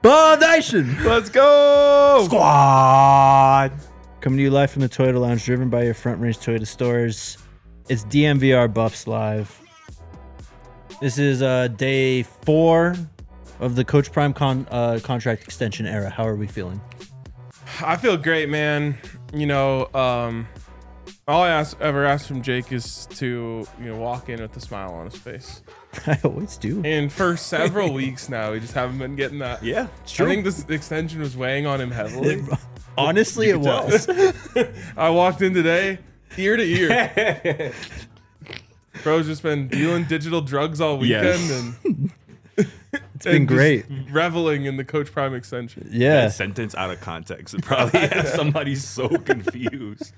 Ball Nation. Let's go. Squad. Coming to you live from the Toyota Lounge, driven by your Front Range Toyota stores. It's DMVR Buffs Live. This is day 4 of the Coach Prime contract extension era. How are we feeling? I feel great, man. You know, all I ever ask from Jake is to, walk in with a smile on his face. I always do. And for several weeks now, we just haven't been getting that. Yeah, it's true. I think this extension was weighing on him heavily. Honestly, it was. I walked in today, ear to ear. Bro's just been dealing digital drugs all weekend, and it's been great. Reveling in the Coach Prime extension. Yeah. That sentence out of context would probably have somebody so confused.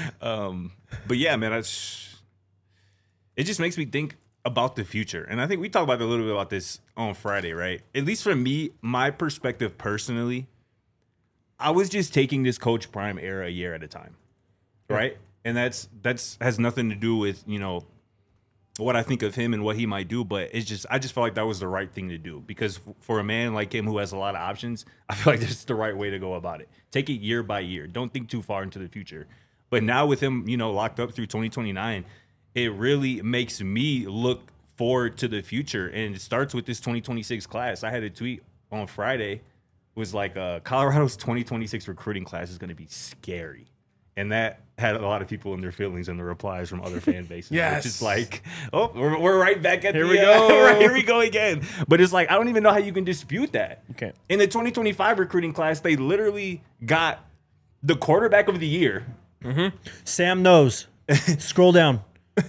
But yeah, man, it just makes me think about the future. And I think we talked about a little bit about this on Friday, right? At least for me, my perspective personally, I was just taking this Coach Prime era a year at a time, right? And that's has nothing to do with, what I think of him and what he might do, but I just felt like that was the right thing to do, because for a man like him who has a lot of options, I feel like that's the right way to go about it. Take it year by year. Don't think too far into the future. But now with him, locked up through 2029, it really makes me look forward to the future. And it starts with this 2026 class. I had a tweet on Friday, was like, Colorado's 2026 recruiting class is going to be scary. And that had a lot of people in their feelings in the replies from other fan bases. Yes. Which is like, we're right back at Here we go. Right, here we go again. But it's like, I don't even know how you can dispute that. Okay. In the 2025 recruiting class, they literally got the quarterback of the year. Mm-hmm. Sam knows. Scroll down.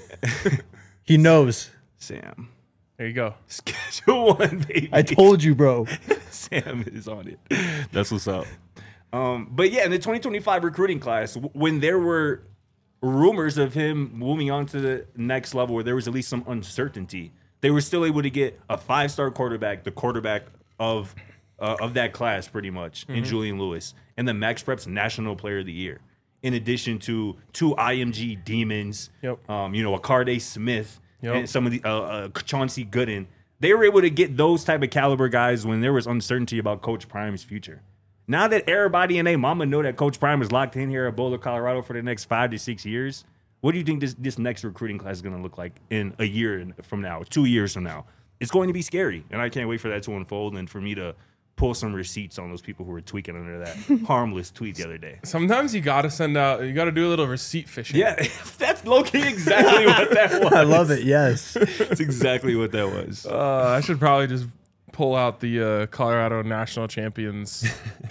He knows. Sam. There you go. Schedule 1, baby. I told you, bro. Sam is on it. That's what's up. But yeah, in the 2025 recruiting class, when there were rumors of him moving on to the next level, where there was at least some uncertainty, they were still able to get a 5-star quarterback, the quarterback of that class, pretty much, in Julian Lewis, and the Max Preps National Player of the Year, in addition to 2 IMG demons, a Carday Smith, and some of the Chauncey Gooden. They were able to get those type of caliber guys when there was uncertainty about Coach Prime's future. Now that everybody and their mama know that Coach Prime is locked in here at Boulder, Colorado for the next 5 to 6 years, what do you think this next recruiting class is going to look like in a year from now, 2 years from now? It's going to be scary, and I can't wait for that to unfold and for me to pull some receipts on those people who were tweaking under that harmless tweet the other day. Sometimes you got to do a little receipt fishing. Yeah, that's low-key exactly what that was. I love it, yes. That's exactly what that was. I should probably just pull out the Colorado National Champions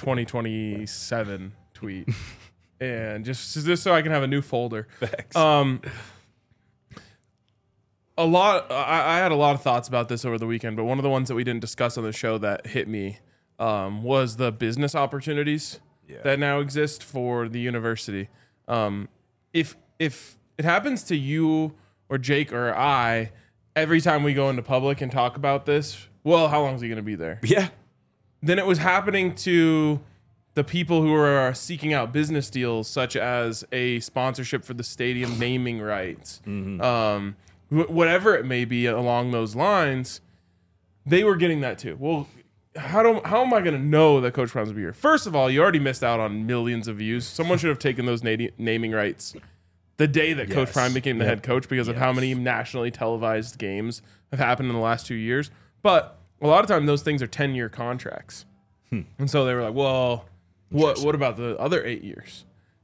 2027 tweet, and just so I can have a new folder. Facts. I had a lot of thoughts about this over the weekend, but one of the ones that we didn't discuss on the show that hit me was the business opportunities that now exist for the university. If it happens to you or Jake or I, every time we go into public and talk about this, well, how long is he going to be there? Yeah. Then it was happening to the people who are seeking out business deals, such as a sponsorship for the stadium naming rights, whatever it may be along those lines. They were getting that too. Well, how am I going to know that Coach Prime's will be here? First of all, you already missed out on millions of views. Someone should have taken those naming rights the day that Coach Prime became the head coach, because of how many nationally televised games have happened in the last 2 years. But a lot of time those things are 10-year contracts. And so they were like, well, what about the other 8 years?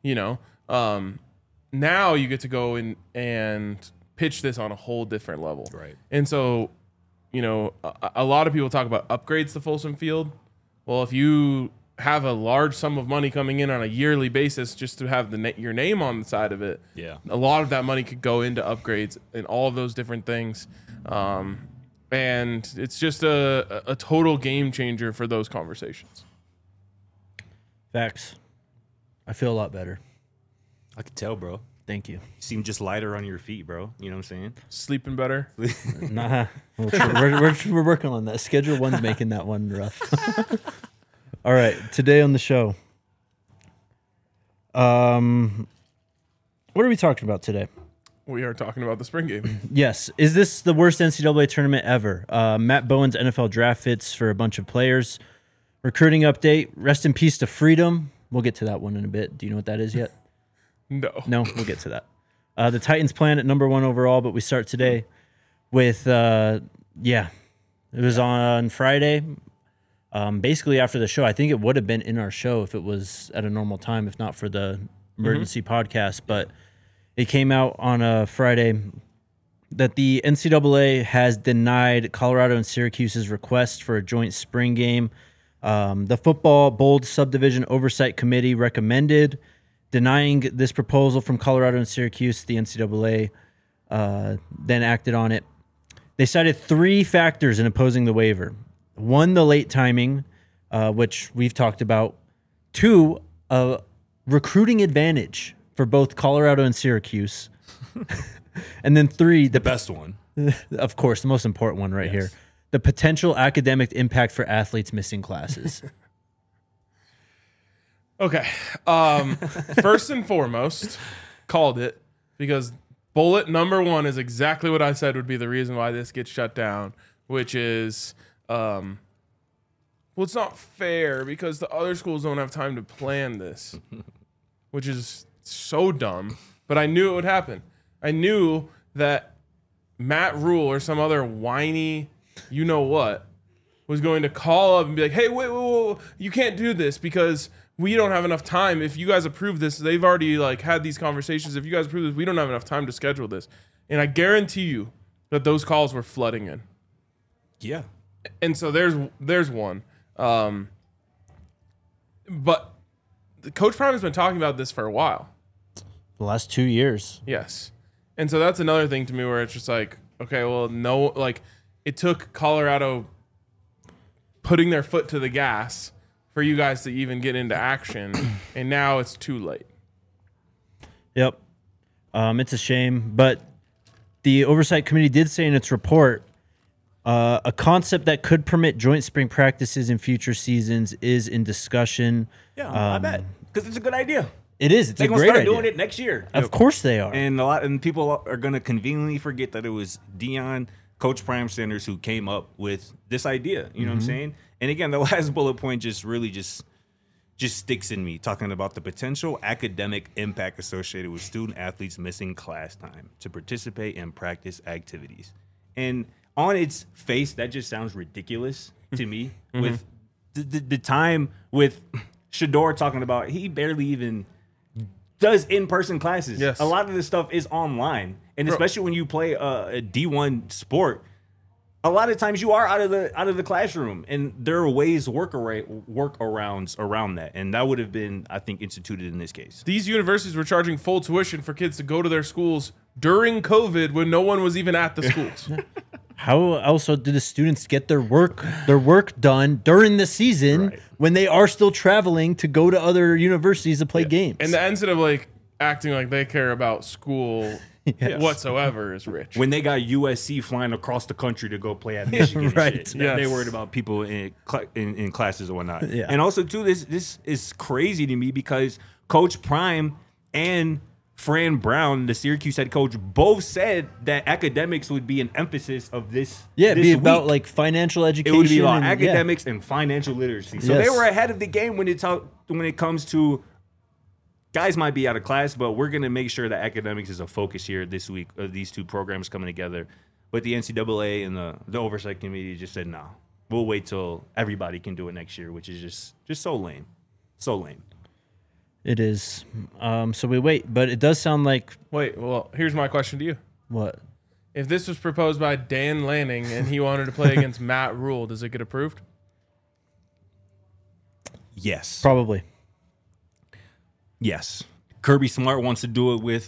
Now you get to go in and pitch this on a whole different level. Right. And so, a lot of people talk about upgrades to Folsom Field. Well, if you have a large sum of money coming in on a yearly basis just to have your name on the side of it, a lot of that money could go into upgrades and all of those different things. And it's just a total game changer for those conversations. Facts. I feel a lot better. I could tell, bro. Thank you. You seem just lighter on your feet, bro. You know what I'm saying? Sleeping better. Nah. We're working on that. Schedule 1's making that one rough. All right. Today on the show. What are we talking about today? We are talking about the spring game. Yes. Is this the worst NCAA tournament ever? Matt Bowen's NFL draft fits for a bunch of players. Recruiting update. Rest in peace to Freedom. We'll get to that one in a bit. Do you know what that is yet? No. No, we'll get to that. The Titans plan at number 1 overall, but we start today with, it was on Friday. Basically after the show. I think it would have been in our show if it was at a normal time, if not for the emergency podcast. But it came out on a Friday that the NCAA has denied Colorado and Syracuse's request for a joint spring game. The Football Bold Subdivision Oversight Committee recommended denying this proposal from Colorado and Syracuse. The NCAA then acted on it. They cited 3 factors in opposing the waiver. 1, the late timing, which we've talked about. 2, a recruiting advantage for both Colorado and Syracuse. And then 3, The best one. of course, the most important one right here. The potential academic impact for athletes missing classes. Okay. First and foremost, called it, because bullet number 1 is exactly what I said would be the reason why this gets shut down, which is, well, it's not fair because the other schools don't have time to plan this, which is so dumb. But I knew it would happen. I knew that Matt Rule or some other whiny you-know-what was going to call up and be like, hey, wait, you can't do this because we don't have enough time. If you guys approve this, they've already had these conversations. If you guys approve this, we don't have enough time to schedule this. And I guarantee you that those calls were flooding in. Yeah. And so there's one. But Coach Prime has been talking about this for a while. The last 2 years. Yes. And so that's another thing to me where it's just okay, well, no, it took Colorado putting their foot to the gas for you guys to even get into action, and now it's too late. Yep. It's a shame, but the Oversight Committee did say in its report, a concept that could permit joint spring practices in future seasons is in discussion. Yeah, I bet. Because it's a good idea. It is. It's They're a going to great start idea. doing it next year. Of course they are. And people are going to conveniently forget that it was Dion, Coach Prime Sanders, who came up with this idea. You know what I'm saying? And again, the last bullet point just sticks in me, talking about the potential academic impact associated with student athletes missing class time to participate in practice activities. And on its face, that just sounds ridiculous to me. With the time with Shedeur talking about, he barely even does in-person classes. Yes. A lot of this stuff is online, and especially when you play a D1 sport, a lot of times you are out of the classroom, and there are ways workarounds around that, and that would have been, I think, instituted in this case. These universities were charging full tuition for kids to go to their schools during COVID when no one was even at the schools. How else do the students get their work done during the season when they are still traveling to go to other universities to play games? And the instead of acting like they care about school whatsoever is rich. When they got USC flying across the country to go play at Michigan, Right. and shit, Yes. they worried about people in classes or whatnot. Yeah. And also too, this is crazy to me because Coach Prime and Fran Brown, the Syracuse head coach, both said that academics would be an emphasis of this. it'd be this about week. Financial education. It would be about and, academics and financial literacy. So Yes. they were ahead of the game when it comes to guys might be out of class, but we're going to make sure that academics is a focus here this week. These two programs coming together. But the NCAA and the Oversight Committee just said, no, we'll wait till everybody can do it next year, which is just so lame. So lame. It is. So we wait, but it does sound like Wait, well, here's my question to you. what? If this was proposed by Dan Lanning and he wanted to play against Matt Rule, does it get approved? Yes. Probably. Yes. Kirby Smart wants to do it with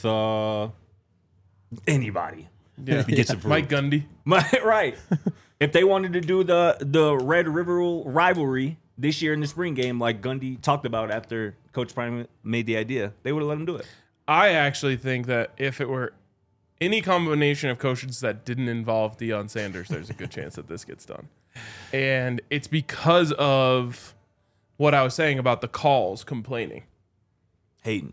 anybody. Yeah. He gets approved. Mike Gundy. Right. If they wanted to do the Red River rivalry this year in the spring game, like Gundy talked about after Coach Prime made the idea, they would have let him do it. I actually think that if it were any combination of coaches that didn't involve Deion Sanders, there's a good chance that this gets done. And it's because of what I was saying about the calls complaining. Hayden.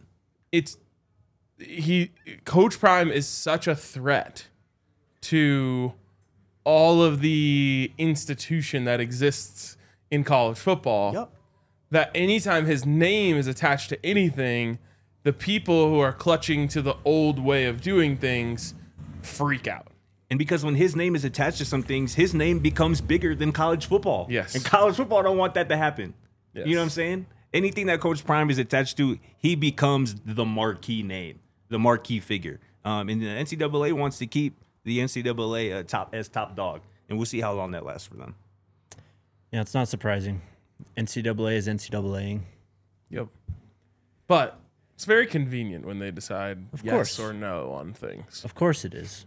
Coach Prime is such a threat to all of the institution that exists in college football. Yep. That anytime his name is attached to anything, the people who are clutching to the old way of doing things freak out. And because when his name is attached to some things, his name becomes bigger than college football. Yes. And college football don't want that to happen. Yes. You know what I'm saying? Anything that Coach Prime is attached to, he becomes the marquee name, the marquee figure. And the NCAA wants to keep the NCAA top dog. And we'll see how long that lasts for them. Yeah, it's not surprising. NCAA is NCAAing. Yep. But it's very convenient when they decide Of yes course. or no on things. Of course it is.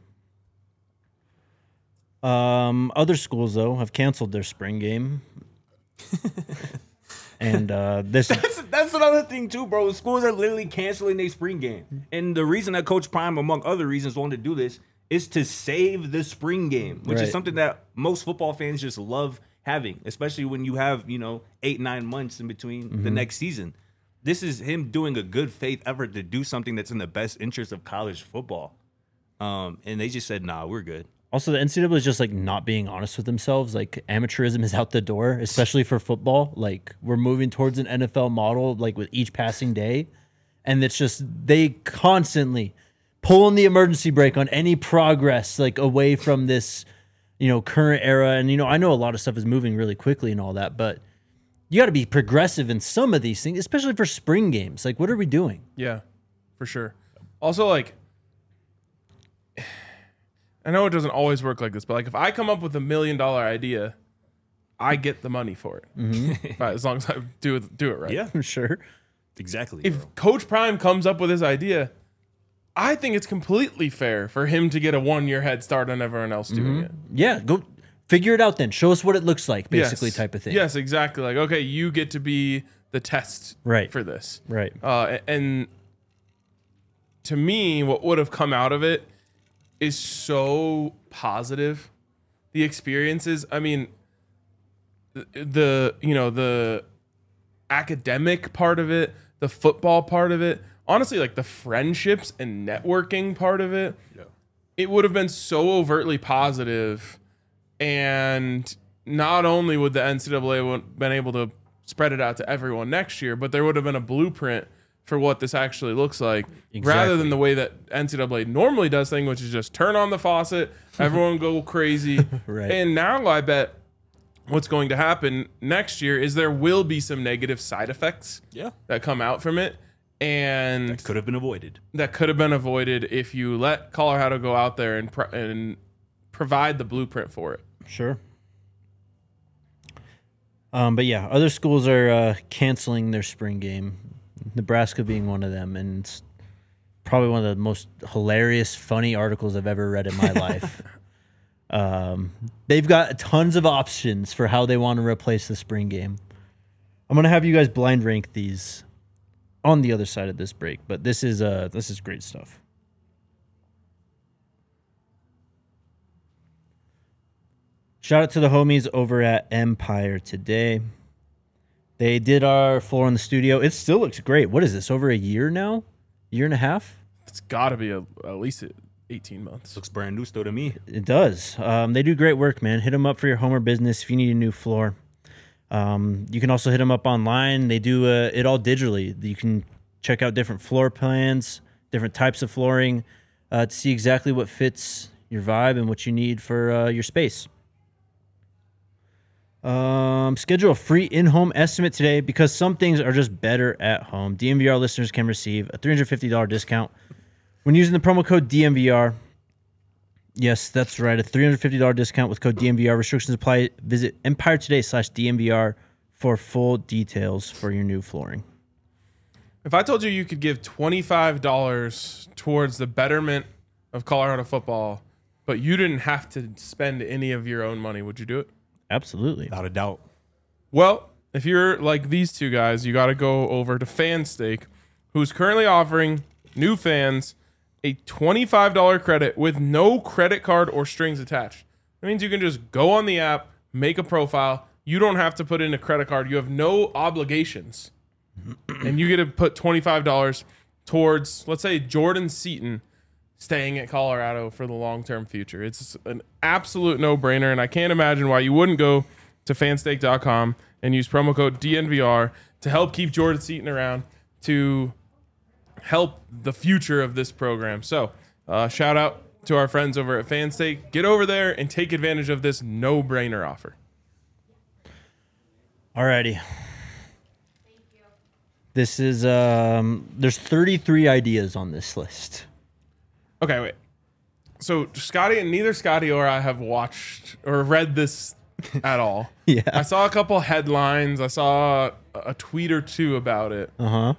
Other schools, though, have canceled their spring game. And this That's another thing too, bro. Schools are literally canceling their spring game. And the reason that Coach Prime, among other reasons, wanted to do this is to save the spring game, which Right. is something that most football fans just love having, especially when you have, 8-9 months in between the next season. This is him doing a good faith effort to do something that's in the best interest of college football. And they just said, nah, we're good. Also, the NCAA is just like not being honest with themselves. Like amateurism is out the door, especially for football. Like we're moving towards an NFL model, like with each passing day, and it's just they constantly pulling the emergency brake on any progress, like away from this, current era. And I know a lot of stuff is moving really quickly and all that, but you got to be progressive in some of these things, especially for spring games. Like, what are we doing? Yeah, for sure. Also, like, I know it doesn't always work like this, but like if I come up with $1 million idea, I get the money for it. As long as I do it right. Yeah, Sure. exactly. If bro. Coach Prime comes up with his idea, I think it's completely fair for him to get a 1-year head start on everyone else doing it. Yeah, go figure it out then. Show us what it looks like, basically, Yes. type of thing. Yes, exactly. Like, okay, you get to be the test Right. for this. Right. And to me, what would have come out of it is so positive. The experiences, I mean, the academic part of it, the football part of it, honestly, like the friendships and networking part of it, it would have been so overtly positive. And not only would the NCAA have been able to spread it out to everyone next year, but there would have been a blueprint for what this actually looks like, rather than the way that NCAA normally does things, which is just turn on the faucet, everyone go crazy. Right. And now I bet what's going to happen next year is there will be some negative side effects that come out from it. And Could have been avoided. that could have been avoided if you let Colorado go out there and provide the blueprint for it. Sure. But yeah, other schools are canceling their spring game. Nebraska being one of them, and it's probably one of the most hilarious, funny articles I've ever read in my life. They've got tons of options for how they want to replace the spring game. I'm gonna have you guys blind rank these on the other side of this break, but this is great stuff. Shout out to the homies over at Empire today. They did our floor in the studio. It still looks great. What is this, over a year now? Year and a half? It's got to be at least 18 months. Looks brand new still to me. It does. They do great work, man. Hit them up for your home or business if you need a new floor. You can also hit them up online. They do it all digitally. You can check out different floor plans, different types of flooring to see exactly what fits your vibe and what you need for your space. Schedule a free in-home estimate today because some things are just better at home. DMVR listeners can receive a $350 discount when using the promo code DMVR. Yes, that's right. A $350 discount with code DMVR. Restrictions apply. Visit EmpireToday.com/DMVR for full details for your new flooring. If I told you you could give $25 towards the betterment of Colorado football, but you didn't have to spend any of your own money, would you do it? Absolutely. Without a doubt. Well, if you're like these two guys, you got to go over to FanStake, who's currently offering new fans a $25 credit with no credit card or strings attached. That means you can just go on the app, make a profile. You don't have to put in a credit card. You have no obligations. And you get to put $25 towards, let's say, Jordan Seaton staying at Colorado for the long-term future. It's an absolute no-brainer, and I can't imagine why you wouldn't go to fanstake.com and use promo code DNVR to help keep Jordan Seaton around, to help the future of this program. So shout out to our friends over at Fanstake. Get over there and take advantage of this no-brainer offer. Alrighty. This is there's 33 ideas on this list. Okay, wait. So neither Scotty or I have watched or read this at all. Yeah. I saw a couple headlines. I saw a tweet or two about it.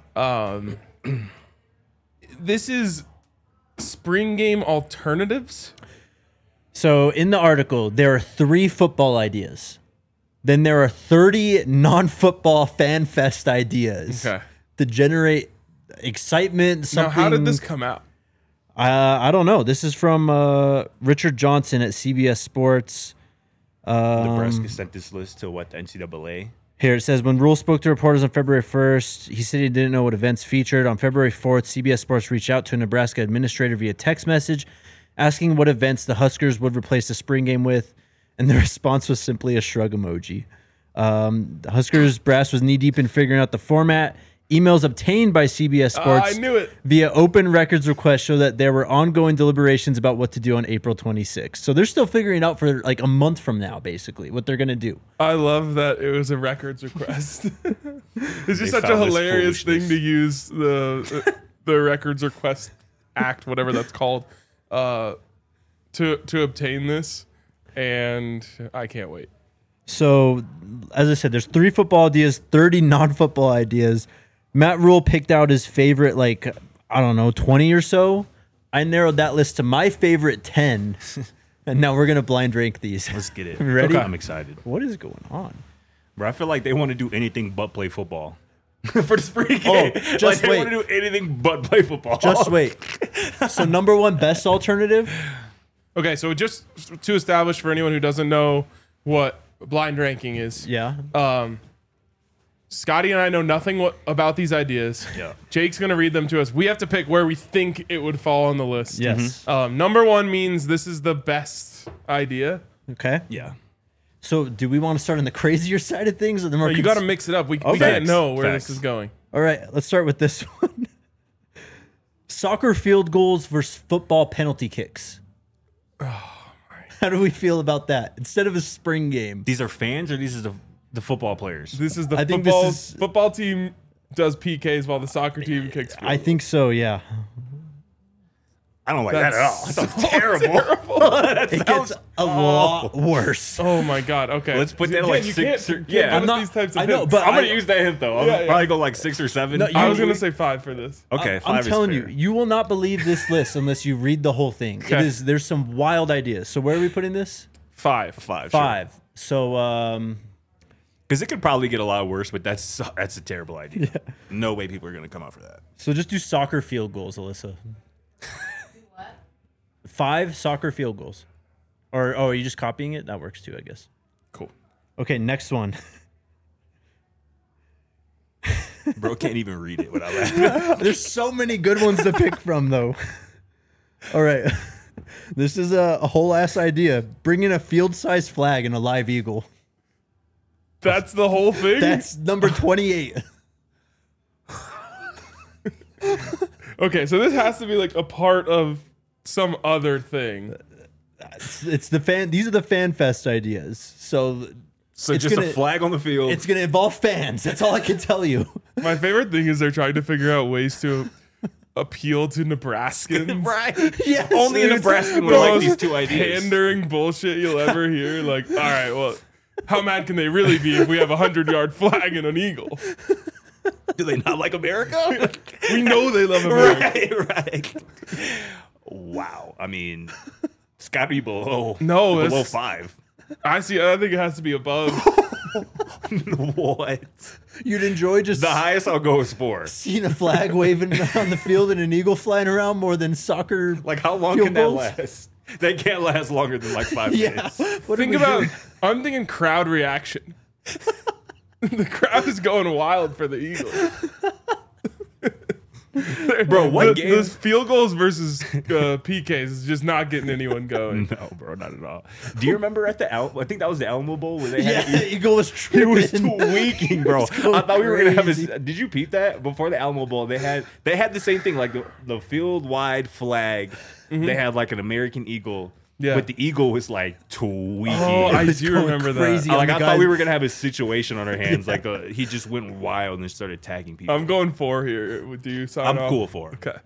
This is spring game alternatives. So in the article, there are 3 football ideas. Then there are 30 non-football fan fest ideas to generate excitement. Now, how did this come out? I don't know. This is from Richard Johnson at CBS Sports. Nebraska sent this list to what, the NCAA? Here it says, when Rule spoke to reporters on February 1st, he said he didn't know what events featured. On February 4th, CBS Sports reached out to a Nebraska administrator via text message asking what events the Huskers would replace the spring game with, and the response was simply a shrug emoji. The Huskers brass was knee-deep in figuring out the format. Emails obtained by CBS Sports I knew it. via open records request show that there were ongoing deliberations about what to do on April 26th. So they're still figuring out for like a month from now, basically, what they're going to do. I love that it was a records request. It's just They such a found this hilarious thing foolishness. to use the Records Request Act, whatever that's called, to obtain this, and I can't wait. So, as I said, there's 3 football ideas, 30 non-football ideas. Matt Rule picked out his favorite, 20 or so. I narrowed that list to my favorite 10, and now we're going to blind rank these. Let's get it. Ready? I'm excited. What is going on? Bro, I feel like they want to do anything but play football. For the spring game. Just they wait. want to do anything but play football. Just wait. So, number 1, best alternative? Okay, so just to establish for anyone who doesn't know what blind ranking is, Yeah. Scotty and I know nothing about these ideas. Yeah. Jake's going to read them to us. We have to pick where we think it would fall on the list. Yes. Number 1 means this is the best idea. Okay. Yeah. So, do we want to start on the crazier side of things? Or the more You got to mix it up. We can't Facts. know where Facts. this is going. All right, let's start with this one. Soccer field goals versus football penalty kicks. How do we feel about that? Instead of a spring game. These are fans or these are the football players? This is the I think this is- football team does PKs while the soccer team kicks field I think so, yeah. I don't like that at all. That sounds terrible. It gets a lot worse. Oh my god. Okay. Let's put that at Again, like you 6 or... can't Yeah, give I'm us not... these types of I know, hints. but I'm going I- to use that hint, though. Yeah, yeah. Probably go like 6 or 7. No, I was going to say 5 for this. Okay, 5 I'm is telling fair. you will not believe this list unless you read the whole thing. Okay. There's some wild ideas. So where are we putting this? 5. 5. 5. So Because it could probably get a lot worse, but that's a terrible idea. No way people are going to come out for that. so just do soccer field goals, Alyssa. 5 soccer field goals. Or are you just copying it? That works too, I guess. Cool. Okay, next one. Bro can't even read it without laughing. There's so many good ones to pick from, though. All right. This is a whole ass idea. Bring in a field-sized flag and a live eagle. That's the whole thing? That's number 28. Okay, so this has to be like a part of some other thing. It's the fan. These are the fan fest ideas. So So It's just gonna- a flag on the field. it's gonna involve fans. That's all I can tell you. My favorite thing is they're trying to figure out ways to appeal to Nebraskans. right. Yes. Only a It's Nebraskan would the like most these 2 ideas. Pandering bullshit you'll ever hear. Like, all right, well, how mad can they really be if we have a 100-yard flag and an eagle? Do they not like America? We know they love America. right. Wow. I mean, it's got to be below, No, below it's- 5. I think it has to be above. What? You'd enjoy just The highest I'll go is 4. seeing a flag waving on the field and an eagle flying around more than soccer. Like, how long Field can that goals? last? They can't last longer than like 5 Yeah. minutes. What Think are we about. doing? I'm thinking crowd reaction. The crowd is going wild for the Eagles. Bro, what game? Those field goals versus PKs is just not getting anyone going. No, bro, not at all. Do you remember at the I think that was the Alamo Bowl where they Yeah, had Eagle was it tripping. was tweaking, bro. It was going I thought we were gonna have crazy. Did you peep that before the Alamo Bowl? They had the same thing, like the field wide flag. They had like an American eagle. Yeah. But the eagle was like tweaking. Oh, I was do going remember crazy. that. Like the I guys- thought we were gonna have a situation on our hands. Like he just went wild and started tagging people. I'm going 4 here. Do you sign I'm off? cool for. Okay.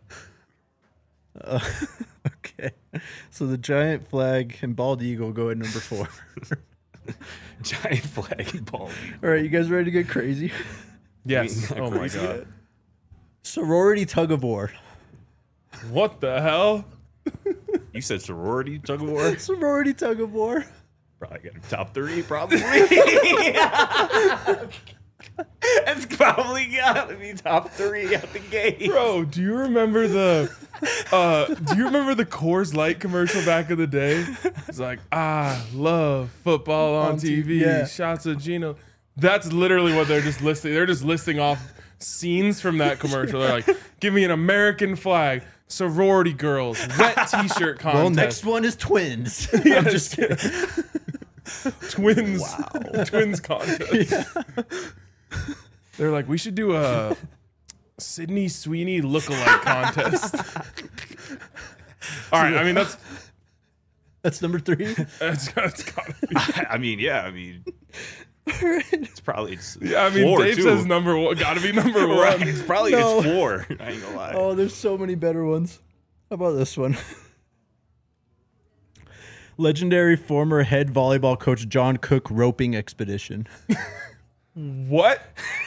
Okay. So the giant flag and bald eagle go at number 4. Giant flag and ball. All right, you guys ready to get crazy? Yes. I mean, Oh my crazy god. yet? Sorority tug of war. What the hell? You said sorority tug of war? Sorority tug of war. Probably got a top 3, probably. It's probably gotta be top 3 out the gate. Bro, do you remember the Coors Light commercial back in the day? It's like, I love football on TV. yeah. Shots of Gino. That's literally what they're just listing. They're just listing off scenes from that commercial. They're like, give me an American flag, sorority girls, wet t-shirt contest. Well, next one is twins. I'm just kidding. Twins. Twins contest. They're like, we should do a Sydney Sweeney lookalike contest. All right, I mean That's number 3. that's gotta be. I mean, yeah, I mean, it's probably Yeah, I mean, 4 Dave too. says number 1. Gotta be number 1. Right, it's probably No. it's 4. I ain't gonna lie. Oh, there's so many better ones. How about this one? Legendary former head volleyball coach John Cook roping expedition. What?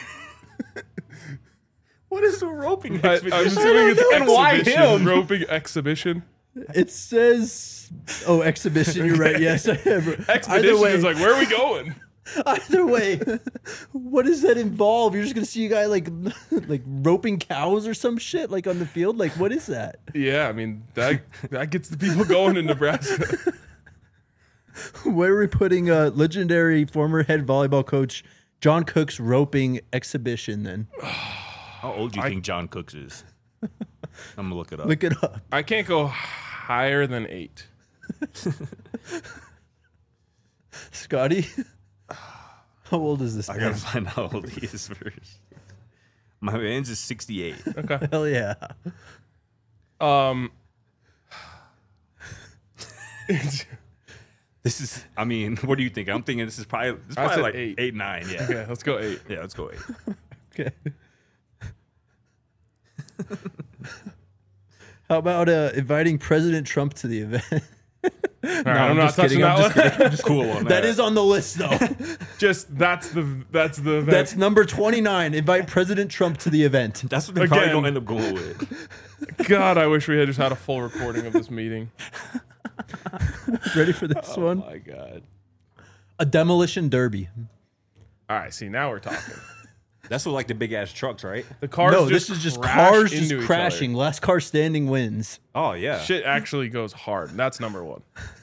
What is the roping I'm expedition? assuming it's And why exhibition. him? Roping exhibition. It says, "Oh, exhibition." You're right. Yes. Either Expedition way, is like, where are we going? either way, what does that involve? You're just gonna see a guy like roping cows or some shit like on the field. Like, what is that? Yeah, I mean that gets the people going in Nebraska. Where are we putting legendary former head volleyball coach John Cook's roping exhibition? Then How old do you think John Cooks is? I'm gonna look it up. look it up. I can't go higher than 8. Scotty, how old is this I man? gotta find out how old he is first. My man's is 68. Okay. Hell yeah. This is, I mean, what do you think? I'm thinking this is probably said like 8. 8, 9. Yeah. Okay, let's go 8. Yeah, let's go 8. Okay. How about inviting President Trump to the event? All right, I'm not just touching kidding, I'm just that one. Cool one. That is on the list, though. Just that's the event. That's number 29. Invite President Trump to the event. That's what they probably Again. gonna end up going with. God, I wish we had just had a full recording of this meeting. Ready for this one? Oh my god. A demolition derby. All right, see, now we're talking. That's what like the big ass trucks, right? The cars No, just this is just crash cars into just each crashing. other. Last car standing wins. Oh yeah. Shit actually goes hard. That's number 1.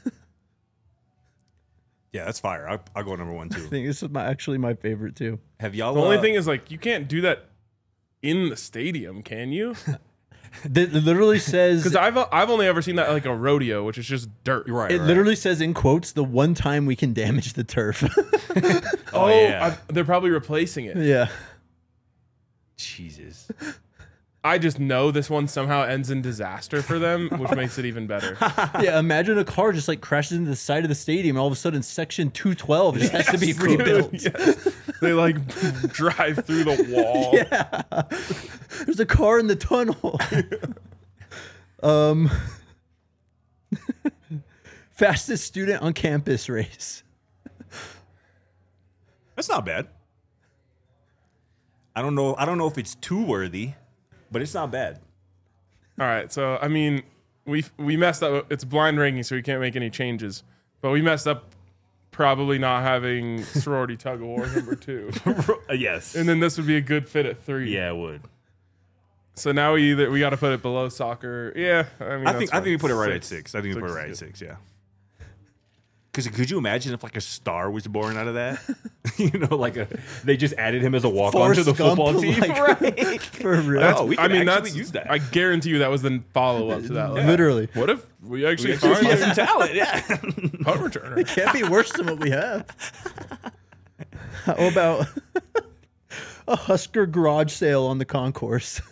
Yeah, that's fire. I'll go number 1 I too. think this is actually my favorite too. Have y'all? The only thing is, like, you can't do that in the stadium, can you? It literally says Because I've only ever seen that at, like, a rodeo, which is just dirt. right. it literally says in quotes the one time we can damage the turf. Oh, yeah. They're probably replacing it. Yeah. Jesus. I just know this one somehow ends in disaster for them, which makes it even better. Yeah, imagine a car just like crashes into the side of the stadium and all of a sudden section 212 just has to be rebuilt. Yes. They like drive through the wall. Yeah. There's a car in the tunnel. Fastest student on campus race. That's not bad. I don't know if it's too worthy, but it's not bad. All right, so I mean, we messed up. It's blind ranking, so we can't make any changes. But we messed up probably not having sorority tug of war number 2, Yes. and then this would be a good fit at 3. yeah, it would. So now we got to put it below soccer. Yeah, I mean, I think we put it right at 6. 6. I think we put it Six right at is 6. Yeah. Because could you imagine if like a star was born out of that? They just added him as a walk on to the Forrest Gump, football team, right? For real. That's use that. I guarantee you that was the follow up to that. Like, Literally. what if we actually Find find some talent, yeah. punt returner? It can't be worse than what we have. How about a Husker garage sale on the concourse?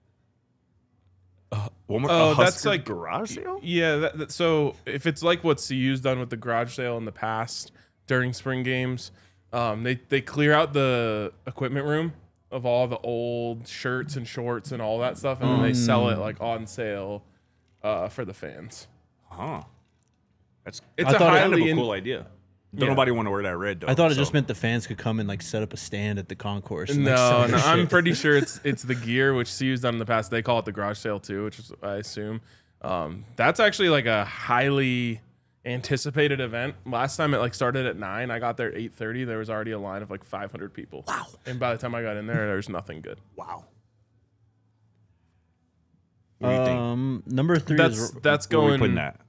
One more. Oh, a that's Husker like garage sale. Yeah, so if it's like what CU's done with the garage sale in the past during spring games, they clear out the equipment room of all the old shirts and shorts and all that stuff, and then they sell it like on sale for the fans. Huh. It's I a thought it kind of highly a cool idea. Don't nobody want to wear that red though. I thought it just meant the fans could come and like set up a stand at the concourse. And, like, No, sell their I'm shit. pretty sure it's the gear, which CU's done in the past. They call it the garage sale too, which is I assume. That's actually like a highly anticipated event. Last time it like started at 9, I got there at 8:30. There was already a line of like 500 people. Wow. And by the time I got in there was nothing good. Wow. What do you think? Number 3 is That's Where are we going putting that?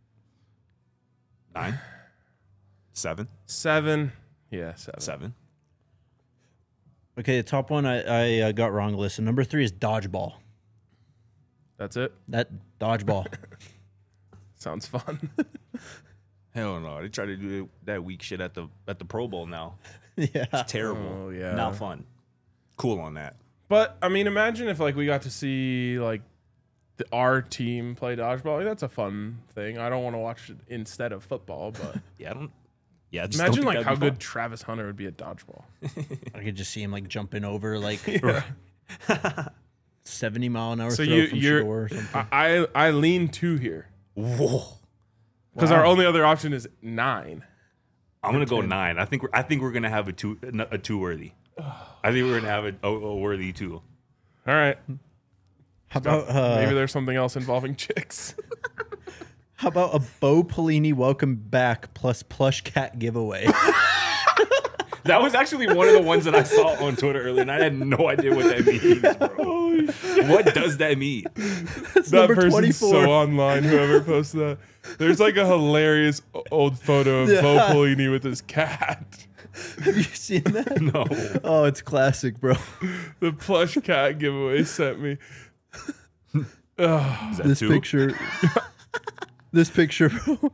9? 7? 7. Yeah, 7. 7. okay. The top one I got wrong. Listen, number 3 is dodgeball. That's it. That dodgeball. Sounds fun. Hell no. They try to do that weak shit at the Pro Bowl now. Yeah. It's terrible. Oh, yeah. Not fun. Cool on that. But I mean, imagine if like we got to see like our team play dodgeball. Like, that's a fun thing. I don't want to watch it instead of football, but Yeah, I don't. Yeah, I just imagine don't like think how that'd be good Travis Hunter would be at dodgeball. I could just see him like jumping over like Yeah. 70-mile-an-hour So throw you- from you're- shore or something. I lean 2 here fun. Whoa. because our only other option is 9. I'm gonna go 9. I think we're gonna have a two worthy. I think we're gonna have a worthy 2. All right. How about Maybe there's something else involving chicks. how about a Bo Pelini welcome back plus plush cat giveaway? That was actually one of the ones that I saw on Twitter earlier, and I had no idea what that means, bro. What does that mean? That's That number person's 24. so online. Whoever posted that. There's like a hilarious old photo of Bo Yeah. Pelini with his cat. Have you seen that? No. Oh, it's classic, bro. The plush cat giveaway sent me. Is that This 2? picture. This picture, bro.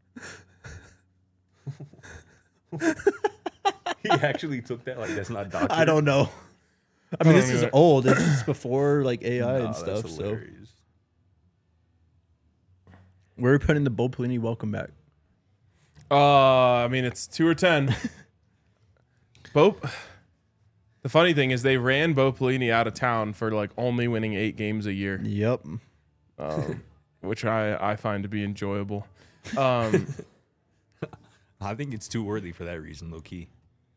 He actually took that. Like that's not documented. I don't know. I mean, this don't is either. old. This is before like AI Nah, and that's stuff. So hilarious. where are we putting the Bo Pelini welcome back? I mean, it's 2 or 10. Bo. The funny thing is, they ran Bo Pelini out of town for like only winning 8 games a year, Yep. which I find to be enjoyable. I think it's too worthy for that reason, low key.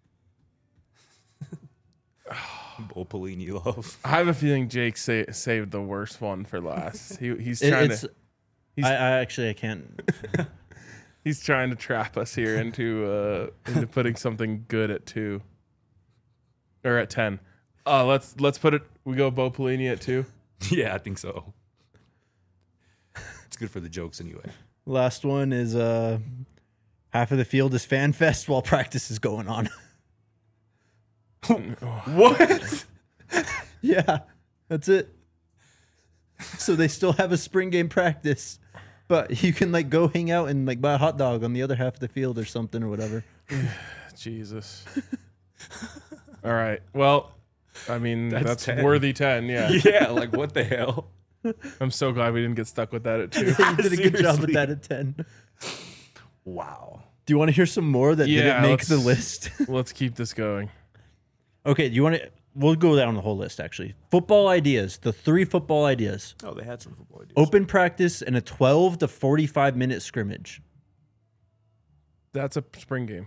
Bo Pelini love. I have a feeling Jake saved the worst one for last. He's trying It's. to I can't. he's trying to trap us here into putting something good at 2 or at 10. Let's put it. We go Bo Pelini at 2. Yeah, I think so. It's good for the jokes anyway. Last one is half of the field is fan fest while practice is going on. What? Yeah, that's it. So they still have a spring game practice, but you can like go hang out and like buy a hot dog on the other half of the field or something or whatever. Jesus. All right. Well, I mean, that's 10. worthy 10. Yeah. Yeah, like what the hell? I'm so glad we didn't get stuck with that at 2. You did a good job with Seriously. that at 10. Wow. Do you want to hear some more that Yeah, didn't make the let's- list? Let's keep this going. Okay, do you want to? We'll go down the whole list actually. Football ideas. The 3 football ideas: Oh, they had some football ideas. open practice and a 12 to 45 minute scrimmage. That's a spring game.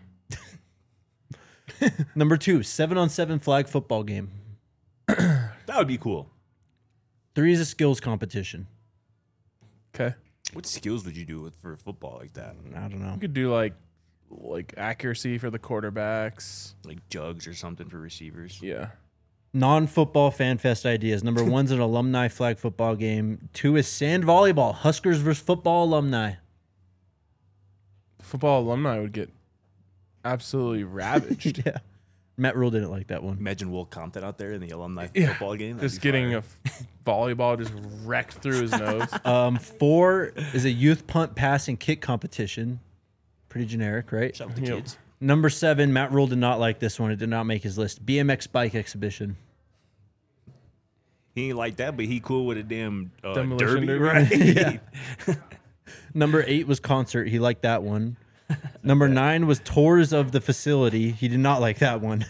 Number 2, 7-on-7 flag football game. That would be cool. 3 is a skills competition. Okay. What skills would you do for football like that? I don't know. You could do like accuracy for the quarterbacks. Like jugs or something for receivers? Yeah. Non-football fan fest ideas. Number 1's an alumni flag football game. 2 is sand volleyball. Huskers versus football alumni. football alumni would get absolutely ravaged. Yeah. Matt Rule didn't like that one. Imagine Will Compton out there in the alumni Yeah. football game. That'd Just be getting fire. a volleyball just wrecked through his nose. 4 is a youth punt, pass, and kick competition. Pretty generic, right? Shout out to Yep. kids. Number 7, Matt Rule did not like this one. It did not make his list. BMX bike exhibition. He ain't like that, but he cool with a damn Demolition derby, derby. right? Yeah. Number 8 was concert. He liked that one. Number 9 was tours of the facility. He did not like that one.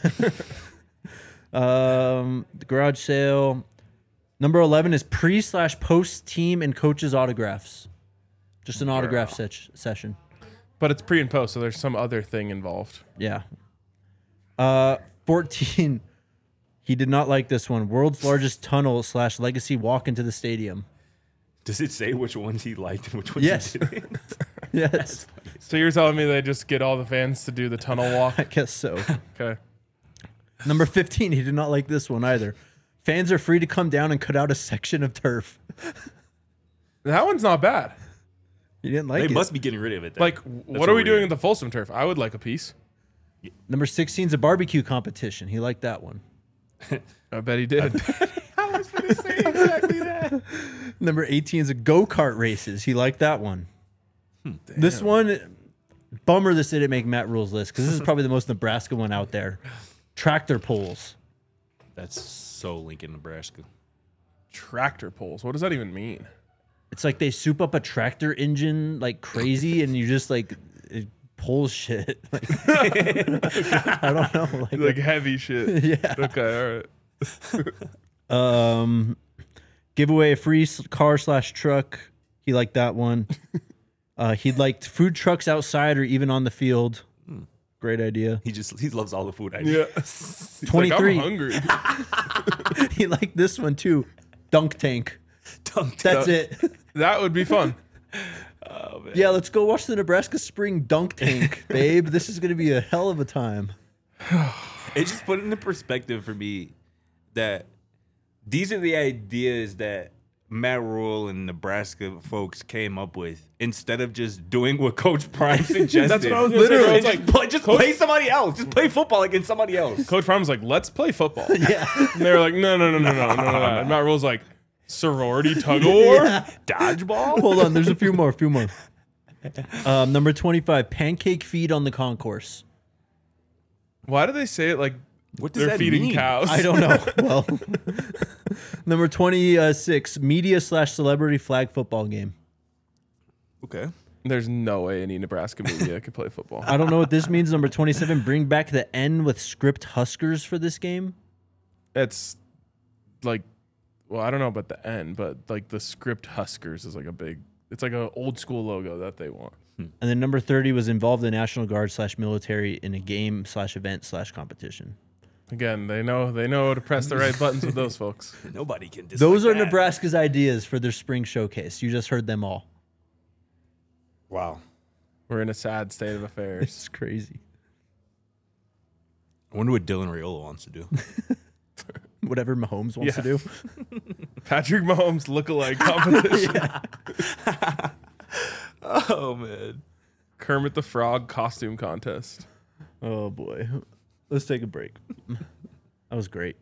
The garage sale. Number 11 is pre/post team and coaches autographs. Just an autograph session. But it's pre and post, so there's some other thing involved. Yeah. 14. He did not like this one. World's largest tunnel / legacy walk into the stadium. Does it say which ones he liked and which ones Yes. he didn't? Yes. So you're telling me they just get all the fans to do the tunnel walk? I guess so. Okay. Number 15. He did not like this one either. Fans are free to come down and cut out a section of turf. That one's not bad. He didn't like They it. must be getting rid of it. Then. Like, That's what are we doing weird. at the Folsom turf? I would like a piece. Number 16 is a barbecue competition. He liked that one. I bet he did. I was going to say exactly that. Number 18 is a go-kart races. He liked that one. This one, bummer this didn't make Matt Rule's list because this is probably the most Nebraska one out there. Tractor pulls. That's so Lincoln, Nebraska. Tractor pulls. What does that even mean? It's like they soup up a tractor engine like crazy and you just like it pulls shit. Like, I don't know. Like heavy shit. Yeah. Okay, all right. Give away a free car / truck. He liked that one. He liked food trucks outside or even on the field. Great idea. He loves all the food. Yeah. Ideas. He's 23. Like, I'm hungry. He liked this one too. Dunk tank. Dunk That's it. That would be fun. Oh, man. Yeah, let's go watch the Nebraska Spring Dunk Tank, babe. This is going to be a hell of a time. It just put into perspective for me that these are the ideas that Matt Rule and Nebraska folks came up with instead of just doing what Coach Prime suggested. That's what I was gonna say, bro. Literally, It's like, just play somebody else. Just play football against somebody else. Coach Prime was like, let's play football. Yeah. And they were like, no. And Matt Rule's like, sorority tug of war? Dodgeball? Hold on, there's a few more. Number 25, pancake feed on the concourse. Why do they say it like What does they're that feeding mean? cows? I don't know. Well, number 26, media / celebrity flag football game. Okay. There's no way any Nebraska media could play football. I don't know what this means. Number 27, bring back the N with script Huskers for this game. It's like, well, I don't know about the N, but like the script Huskers is like it's like an old school logo that they want. And then number 30 was involved the National Guard / military in a game / event / competition. Again, they know to press the right buttons with those folks. Nobody can dislike Those are that. Nebraska's ideas for their spring showcase. You just heard them all. Wow. We're in a sad state of affairs. It's crazy. I wonder what Dylan Raiola wants to do. Whatever Mahomes wants to do. Patrick Mahomes lookalike competition. Oh, man. Kermit the Frog costume contest. Oh boy. Let's take a break. That was great.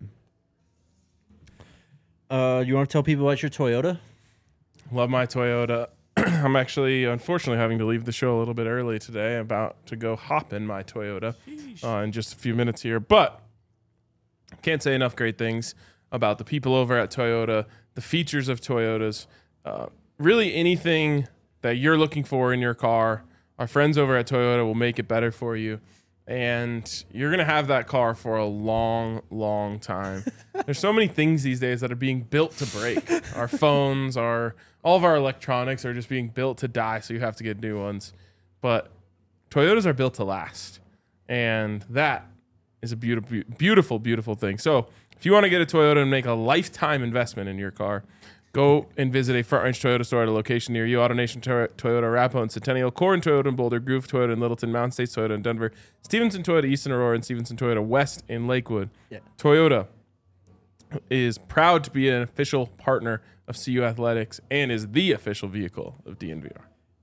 You want to tell people about your Toyota? Love my Toyota. I'm actually, unfortunately, having to leave the show a little bit early today. I'm about to go hop in my Toyota in just a few minutes here. But can't say enough great things about the people over at Toyota, the features of Toyotas, really anything that you're looking for in your car. Our friends over at Toyota will make it better for you. And you're going to have that car for a long, long time. There's so many things these days that are being built to break. Our phones, all of our electronics are just being built to die, so you have to get new ones. But Toyotas are built to last. And that is a beautiful, beautiful, beautiful thing. So if you want to get a Toyota and make a lifetime investment in your car, go and visit a Front Range Toyota store at a location near you. AutoNation Toyota, Arapahoe and Centennial, Corin Toyota in Boulder, Groove Toyota in Littleton, Mountain States Toyota in Denver, Stevenson Toyota East in Aurora, and Stevenson Toyota West in Lakewood. Yeah. Toyota is proud to be an official partner of CU Athletics and is the official vehicle of DNVR.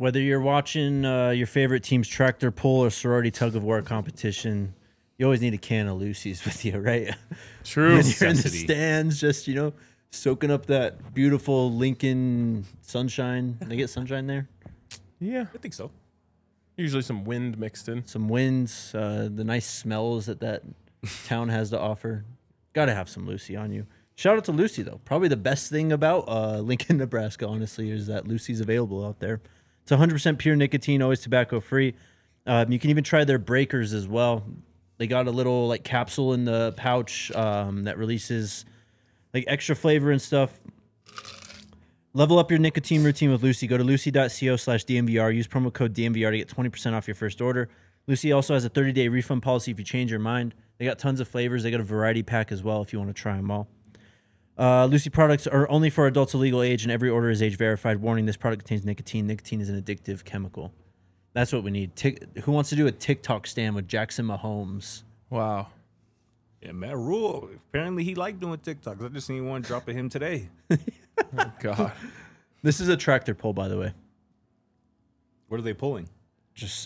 Whether you're watching your favorite team's tractor pull or sorority tug of war competition, you always need a can of Lucy's with you, right? True. When you're in the Necessity. stands, just, soaking up that beautiful Lincoln sunshine. They get sunshine there? Yeah. I think so. Usually some wind mixed in. Some winds, the nice smells that town has to offer. Got to have some Lucy on you. Shout out to Lucy, though. Probably the best thing about Lincoln, Nebraska, honestly, is that Lucy's available out there. It's 100% pure nicotine, always tobacco-free. You can even try their breakers as well. They got a little capsule in the pouch that releases extra flavor and stuff. Level up your nicotine routine with Lucy. Go to lucy.co/DMVR. Use promo code DMVR to get 20% off your first order. Lucy also has a 30-day refund policy if you change your mind. They got tons of flavors. They got a variety pack as well if you want to try them all. Lucy products are only for adults of legal age, and every order is age verified. Warning, this product contains nicotine. Nicotine is an addictive chemical. That's what we need. Who wants to do a TikTok stand with Jackson Mahomes? Wow. Yeah, Matt Rule. Apparently, he liked doing TikToks. I just seen one drop of him today. Oh, God. This is a tractor pull, by the way. What are they pulling? Just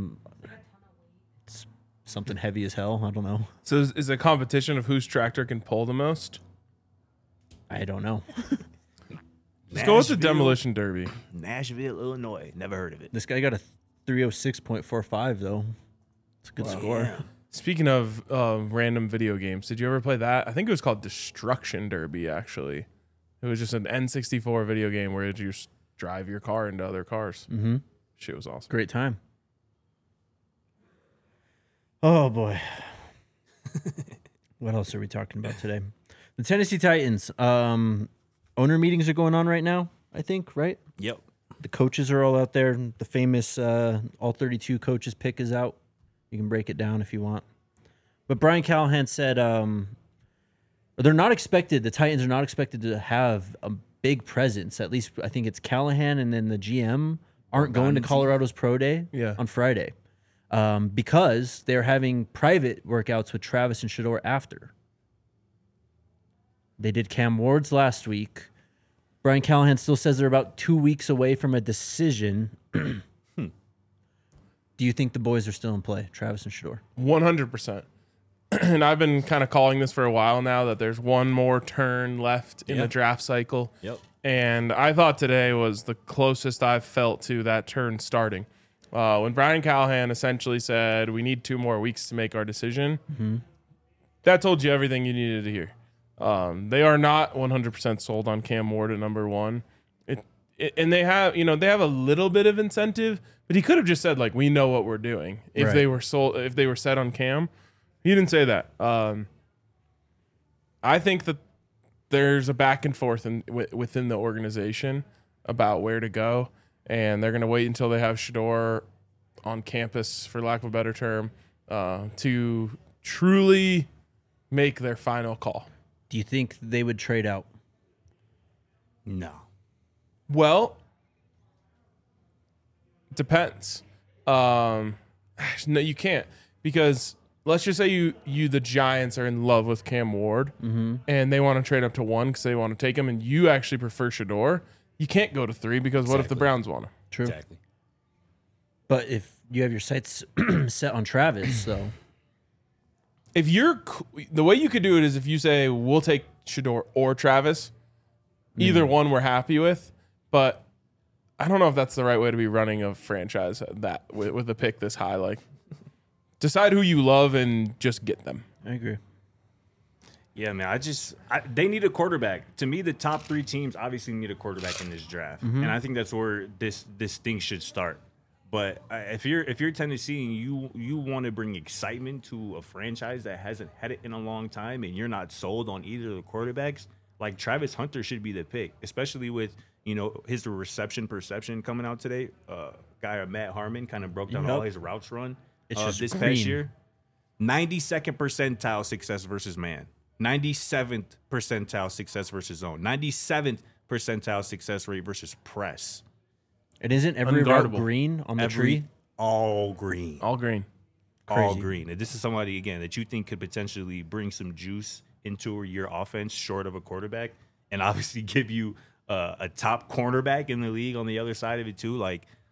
something heavy as hell. I don't know. So is it a competition of whose tractor can pull the most? I don't know. Let's go with the demolition derby. Nashville, Illinois. Never heard of it. This guy got a 306.45 though. It's a good score. Yeah. Speaking of random video games, did you ever play that? I think it was called Destruction Derby, actually. It was just an N64 video game where you just drive your car into other cars. Mm-hmm. Shit was awesome. Great time. Oh boy. What else are we talking about today? The Tennessee Titans. Owner meetings are going on right now, I think, right? Yep. The coaches are all out there. The famous all 32 coaches pick is out. You can break it down if you want. But Brian Callahan said they're not expected, the Titans are not expected to have a big presence. At least I think it's Callahan and then the GM aren't going to Colorado's Pro Day on Friday because they're having private workouts with Travis and Shador after. They did Cam Ward's last week. Brian Callahan still says they're about 2 weeks away from a decision. Do you think the boys are still in play, Travis and Shador? 100%. And I've been kind of calling this for a while now that there's one more turn left in the draft cycle. Yep. And I thought today was the closest I've felt to that turn starting. When Brian Callahan essentially said, we need 2 more weeks to make our decision, that told you everything you needed to hear. They are not 100% sold on Cam Ward at number 1. And they have, they have a little bit of incentive, but he could have just said, we know what we're doing. If they were sold, if they were set on Cam, he didn't say that. I think that there's a back and forth within the organization about where to go, and they're going to wait until they have Shador on campus, for lack of a better term, to truly make their final call. Do you think they would trade out? No. Well, depends. No, you can't, because let's just say you the Giants are in love with Cam Ward and they want to trade up to 1 because they want to take him, and you actually prefer Shador. You can't go to 3 because what if the Browns want him? True. Exactly. But if you have your sights set on Travis, though. If the way you could do it is if you say we'll take Shador or Travis, either one we're happy with, but I don't know if that's the right way to be running a franchise that with a pick this high. Decide who you love and just get them. I agree. Yeah, man. They need a quarterback. To me, the top 3 teams obviously need a quarterback in this draft, and I think that's where this thing should start. But if you're Tennessee and you want to bring excitement to a franchise that hasn't had it in a long time, and you're not sold on either of the quarterbacks, Travis Hunter should be the pick, especially with his reception perception coming out today. Guy Matt Harmon kind of broke down all his routes run this past year. 92nd percentile success versus man, 97th percentile success versus zone, 97th percentile success rate versus press. And isn't every route Unguardable. green on the tree? All green. All green. All Crazy. green. And this is somebody, again, that you think could potentially bring some juice into your offense short of a quarterback, and obviously give you a top cornerback in the league on the other side of it too.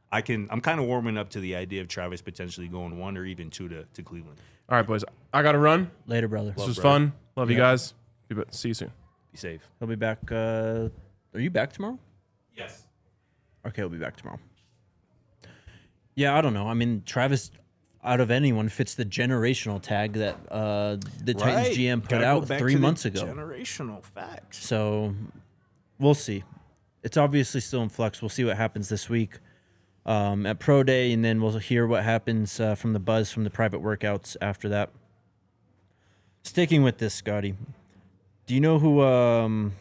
I'm kind of warming up to the idea of Travis potentially going 1 or even 2 to Cleveland. All right, boys. I got to run. Later, brother. This was fun. Love you guys. See you soon. Be safe. He'll be back. Are you back tomorrow? Yes. Okay, he'll be back tomorrow. Yeah, I don't know. I mean, Travis, out of anyone, fits the generational tag that the Titans GM put out 3 months ago. Generational facts. So we'll see. It's obviously still in flux. We'll see what happens this week at Pro Day, and then we'll hear what happens from the buzz from the private workouts after that. Sticking with this, Scotty, do you know who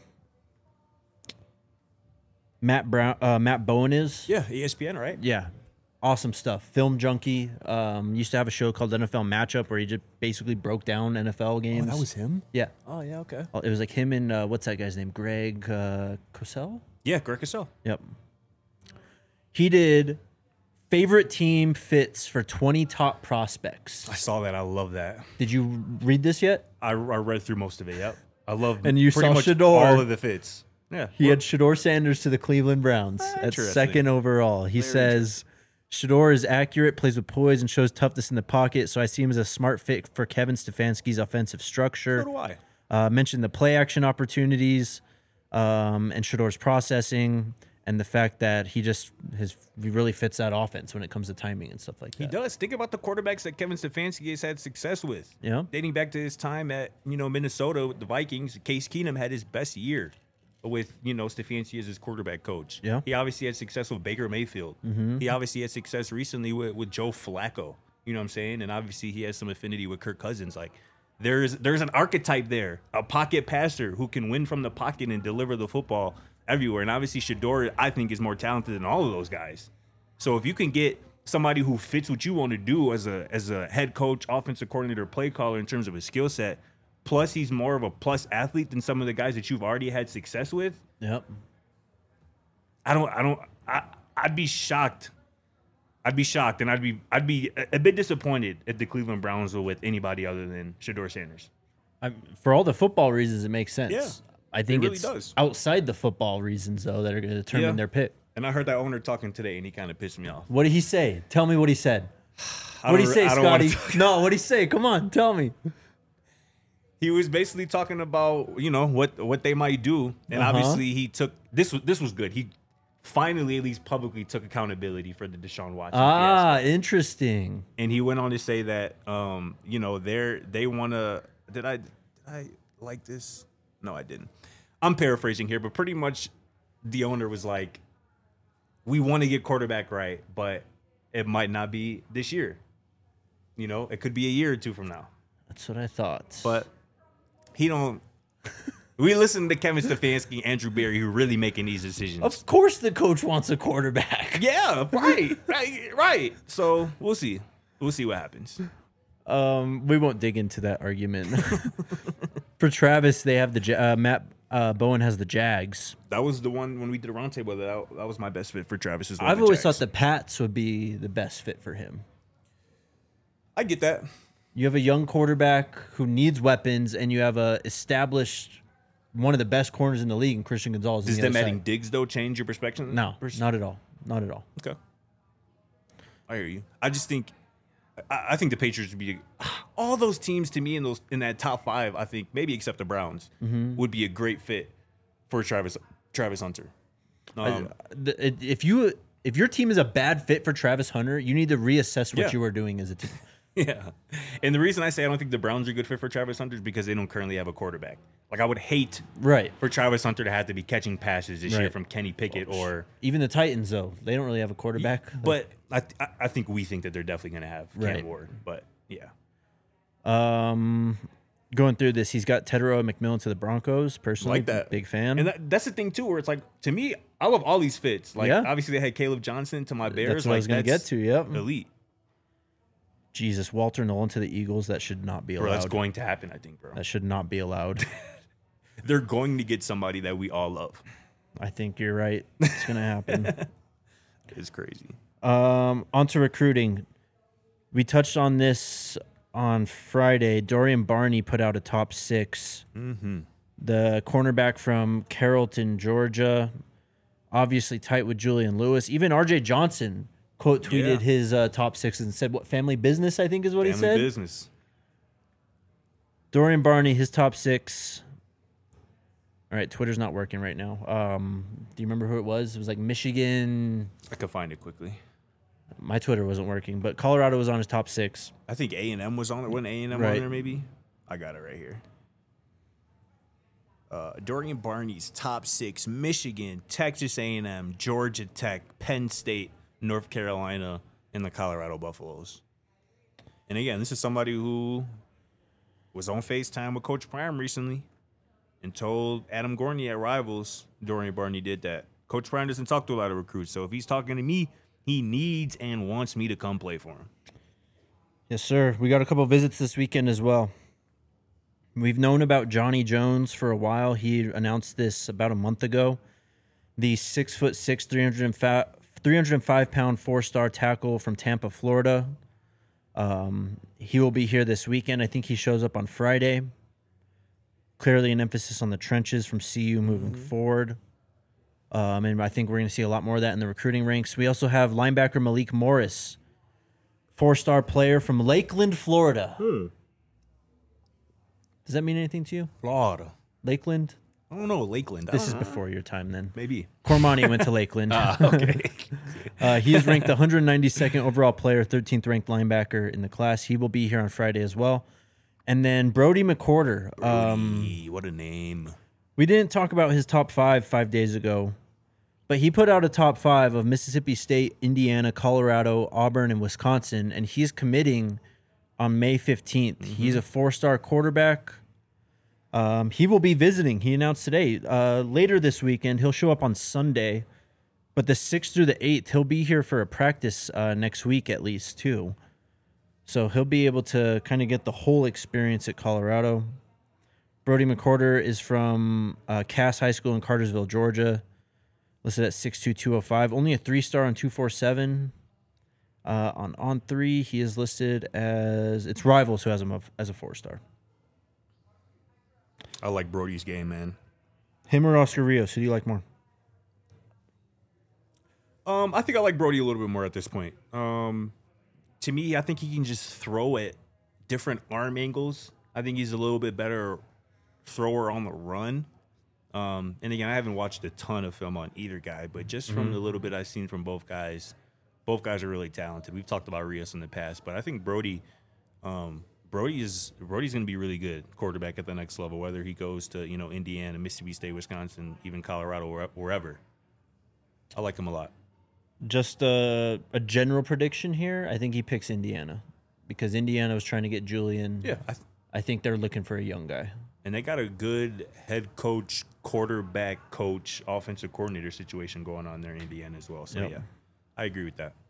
Matt Bowen is? Yeah, ESPN, right? Yeah. Awesome stuff. Film junkie. Used to have a show called NFL Matchup where he just basically broke down NFL games. Oh, that was him? Yeah. Oh, yeah, okay. It was like him and what's that guy's name? Greg Cosell? Yeah, Greg Cosell. Yep. He did favorite team fits for 20 top prospects. I saw that. I love that. Did you read this yet? I read through most of it, yep. I love And you pretty saw much Shador. all of the fits. Yeah. He had Shador Sanders to the Cleveland Browns at Interesting. second overall. He says, Shador is accurate, plays with poise, and shows toughness in the pocket, so I see him as a smart fit for Kevin Stefanski's offensive structure. So do I. Mentioned the play action opportunities and Shador's processing and the fact that he really fits that offense when it comes to timing and stuff like that. He does. Think about the quarterbacks that Kevin Stefanski has had success with. Yeah. Dating back to his time at, Minnesota with the Vikings, Case Keenum had his best year with, Stefanski as his quarterback coach. Yeah. He obviously had success with Baker Mayfield. Mm-hmm. He obviously had success recently with Joe Flacco. You know what I'm saying? And obviously he has some affinity with Kirk Cousins. Like, there's an archetype there, a pocket passer who can win from the pocket and deliver the football everywhere. And obviously Shador, I think, is more talented than all of those guys. So if you can get somebody who fits what you want to do as a head coach, offensive coordinator, play caller in terms of his skill set, plus he's more of a plus athlete than some of the guys that you've already had success with. Yep. I'd be shocked. I'd be shocked, and I'd be a bit disappointed if the Cleveland Browns were with anybody other than Shador Sanders. For all the football reasons, it makes sense. Yeah, I think really it's does. outside the football reasons, though, that are going to determine their pick. And I heard that owner talking today, and he kind of pissed me off. What did he say? Tell me what he said. What did he say, Scotty? No, what did he say? Come on, tell me. He was basically talking about, what they might do. And obviously he took this was good. He finally at least publicly took accountability for the Deshaun Watson fiasco. Interesting. And he went on to say that they want to did I like this? No, I didn't. I'm paraphrasing here, but pretty much the owner was like, we want to get quarterback right, but it might not be this year. It could be a year or two from now. That's what I thought. But he don't. We listen to Kevin Stefanski, Andrew Berry, who really making these decisions. Of course, the coach wants a quarterback. Yeah, right. So we'll see. We'll see what happens. We won't dig into that argument. For Travis, they have the Matt Bowen has the Jags. That was the one when we did a roundtable. That was my best fit for Travis. As well. I've always thought the Pats would be the best fit for him. I get that. You have a young quarterback who needs weapons, and you have a established one of the best corners in the league, in Christian Gonzalez. Does them adding Diggs though change your perspective? No, not at all. Not at all. Okay, I hear you. I just think, I think the Patriots would be all those teams to me in that top 5. I think maybe except the Browns would be a great fit for Travis Hunter. If your team is a bad fit for Travis Hunter, you need to reassess what you are doing as a team. Yeah. And the reason I say I don't think the Browns are a good fit for Travis Hunter is because they don't currently have a quarterback. Like, I would hate for Travis Hunter to have to be catching passes this year from Kenny Pickett or... Even the Titans, though. They don't really have a quarterback. But I think we think that they're definitely going to have Cam Ward. But, yeah. Going through this, he's got Tedero McMillan to the Broncos. Personally, like that. Big fan. And that's the thing, too, where it's like, to me, I love all these fits. Like, obviously, they had Caleb Johnson to my Bears. That's what I was going to get to, elite. Jesus, Walter Nolan to the Eagles, that should not be allowed. Bro, that's going to happen, I think, bro. That should not be allowed. They're going to get somebody that we all love. I think you're right. It's going to happen. It's crazy. On to recruiting. We touched on this on Friday. Dorian Barney put out a top 6. Mm-hmm. The cornerback from Carrollton, Georgia. Obviously tight with Julian Lewis. Even R.J. Johnson quote tweeted Yeah. his top 6 and said, what, family business, I think is what he Family said. business. Dorian Barney, his top 6. All right, Twitter's not working right now. Do you remember who it was? It was like Michigan. I could find it quickly. My Twitter wasn't working, but Colorado was on his top 6. I think A&M was on it. Wasn't A&M Right. on there maybe? I got it right here. Dorian Barney's top 6: Michigan, Texas A&M, Georgia Tech, Penn State, North Carolina, and the Colorado Buffaloes. And again, this is somebody who was on FaceTime with Coach Prime recently and told Adam Gorney at Rivals Dorian Barney did that. Coach Prime doesn't talk to a lot of recruits, so if he's talking to me, he needs and wants me to come play for him. Yes, sir. We got a couple visits this weekend as well. We've known about Johnny Jones for a while. He announced this about a month ago. The 6'6", 305-pound 4-star tackle from Tampa, Florida. He will be here this weekend. I think he shows up on Friday. Clearly an emphasis on the trenches from CU moving forward. And I think we're going to see a lot more of that in the recruiting ranks. We also have linebacker Malik Morris, 4-star player from Lakeland, Florida. Does that mean anything to you? Florida. Lakeland? I don't know, Lakeland. This is before your time then. Maybe. Cormani went to Lakeland. Okay. He is ranked the 192nd overall player, 13th ranked linebacker in the class. He will be here on Friday as well. And then Brody McCorder. Brody, what a name. We didn't talk about his top 5 days ago, but he put out a top 5 of Mississippi State, Indiana, Colorado, Auburn, and Wisconsin, and he's committing on May 15th. He's a 4-star quarterback. He will be visiting. He announced today. Later this weekend, he'll show up on Sunday, but the 6th through the 8th, he'll be here for a practice next week at least, too. So he'll be able to kind of get the whole experience at Colorado. Brody McCorder is from Cass High School in Cartersville, Georgia. Listed at 6'2", 205. Only a 3-star on 247. On 3, he is listed as... It's Rivals who has him up as a 4-star. I like Brody's game, man. Him or Oscar Rios? Who do you like more? I think I like Brody a little bit more at this point. To me, I think he can just throw at different arm angles. I think he's a little bit better thrower on the run. And again, I haven't watched a ton of film on either guy, but just from the little bit I've seen from both guys are really talented. We've talked about Rios in the past, but I think Brody's going to be really good quarterback at the next level, whether he goes to, Indiana, Mississippi State, Wisconsin, even Colorado, wherever. I like him a lot. Just a general prediction here. I think he picks Indiana because Indiana was trying to get Julian. Yeah. I think they're looking for a young guy. And they got a good head coach, quarterback coach, offensive coordinator situation going on there in Indiana as well. So, Yep. yeah, I agree with that.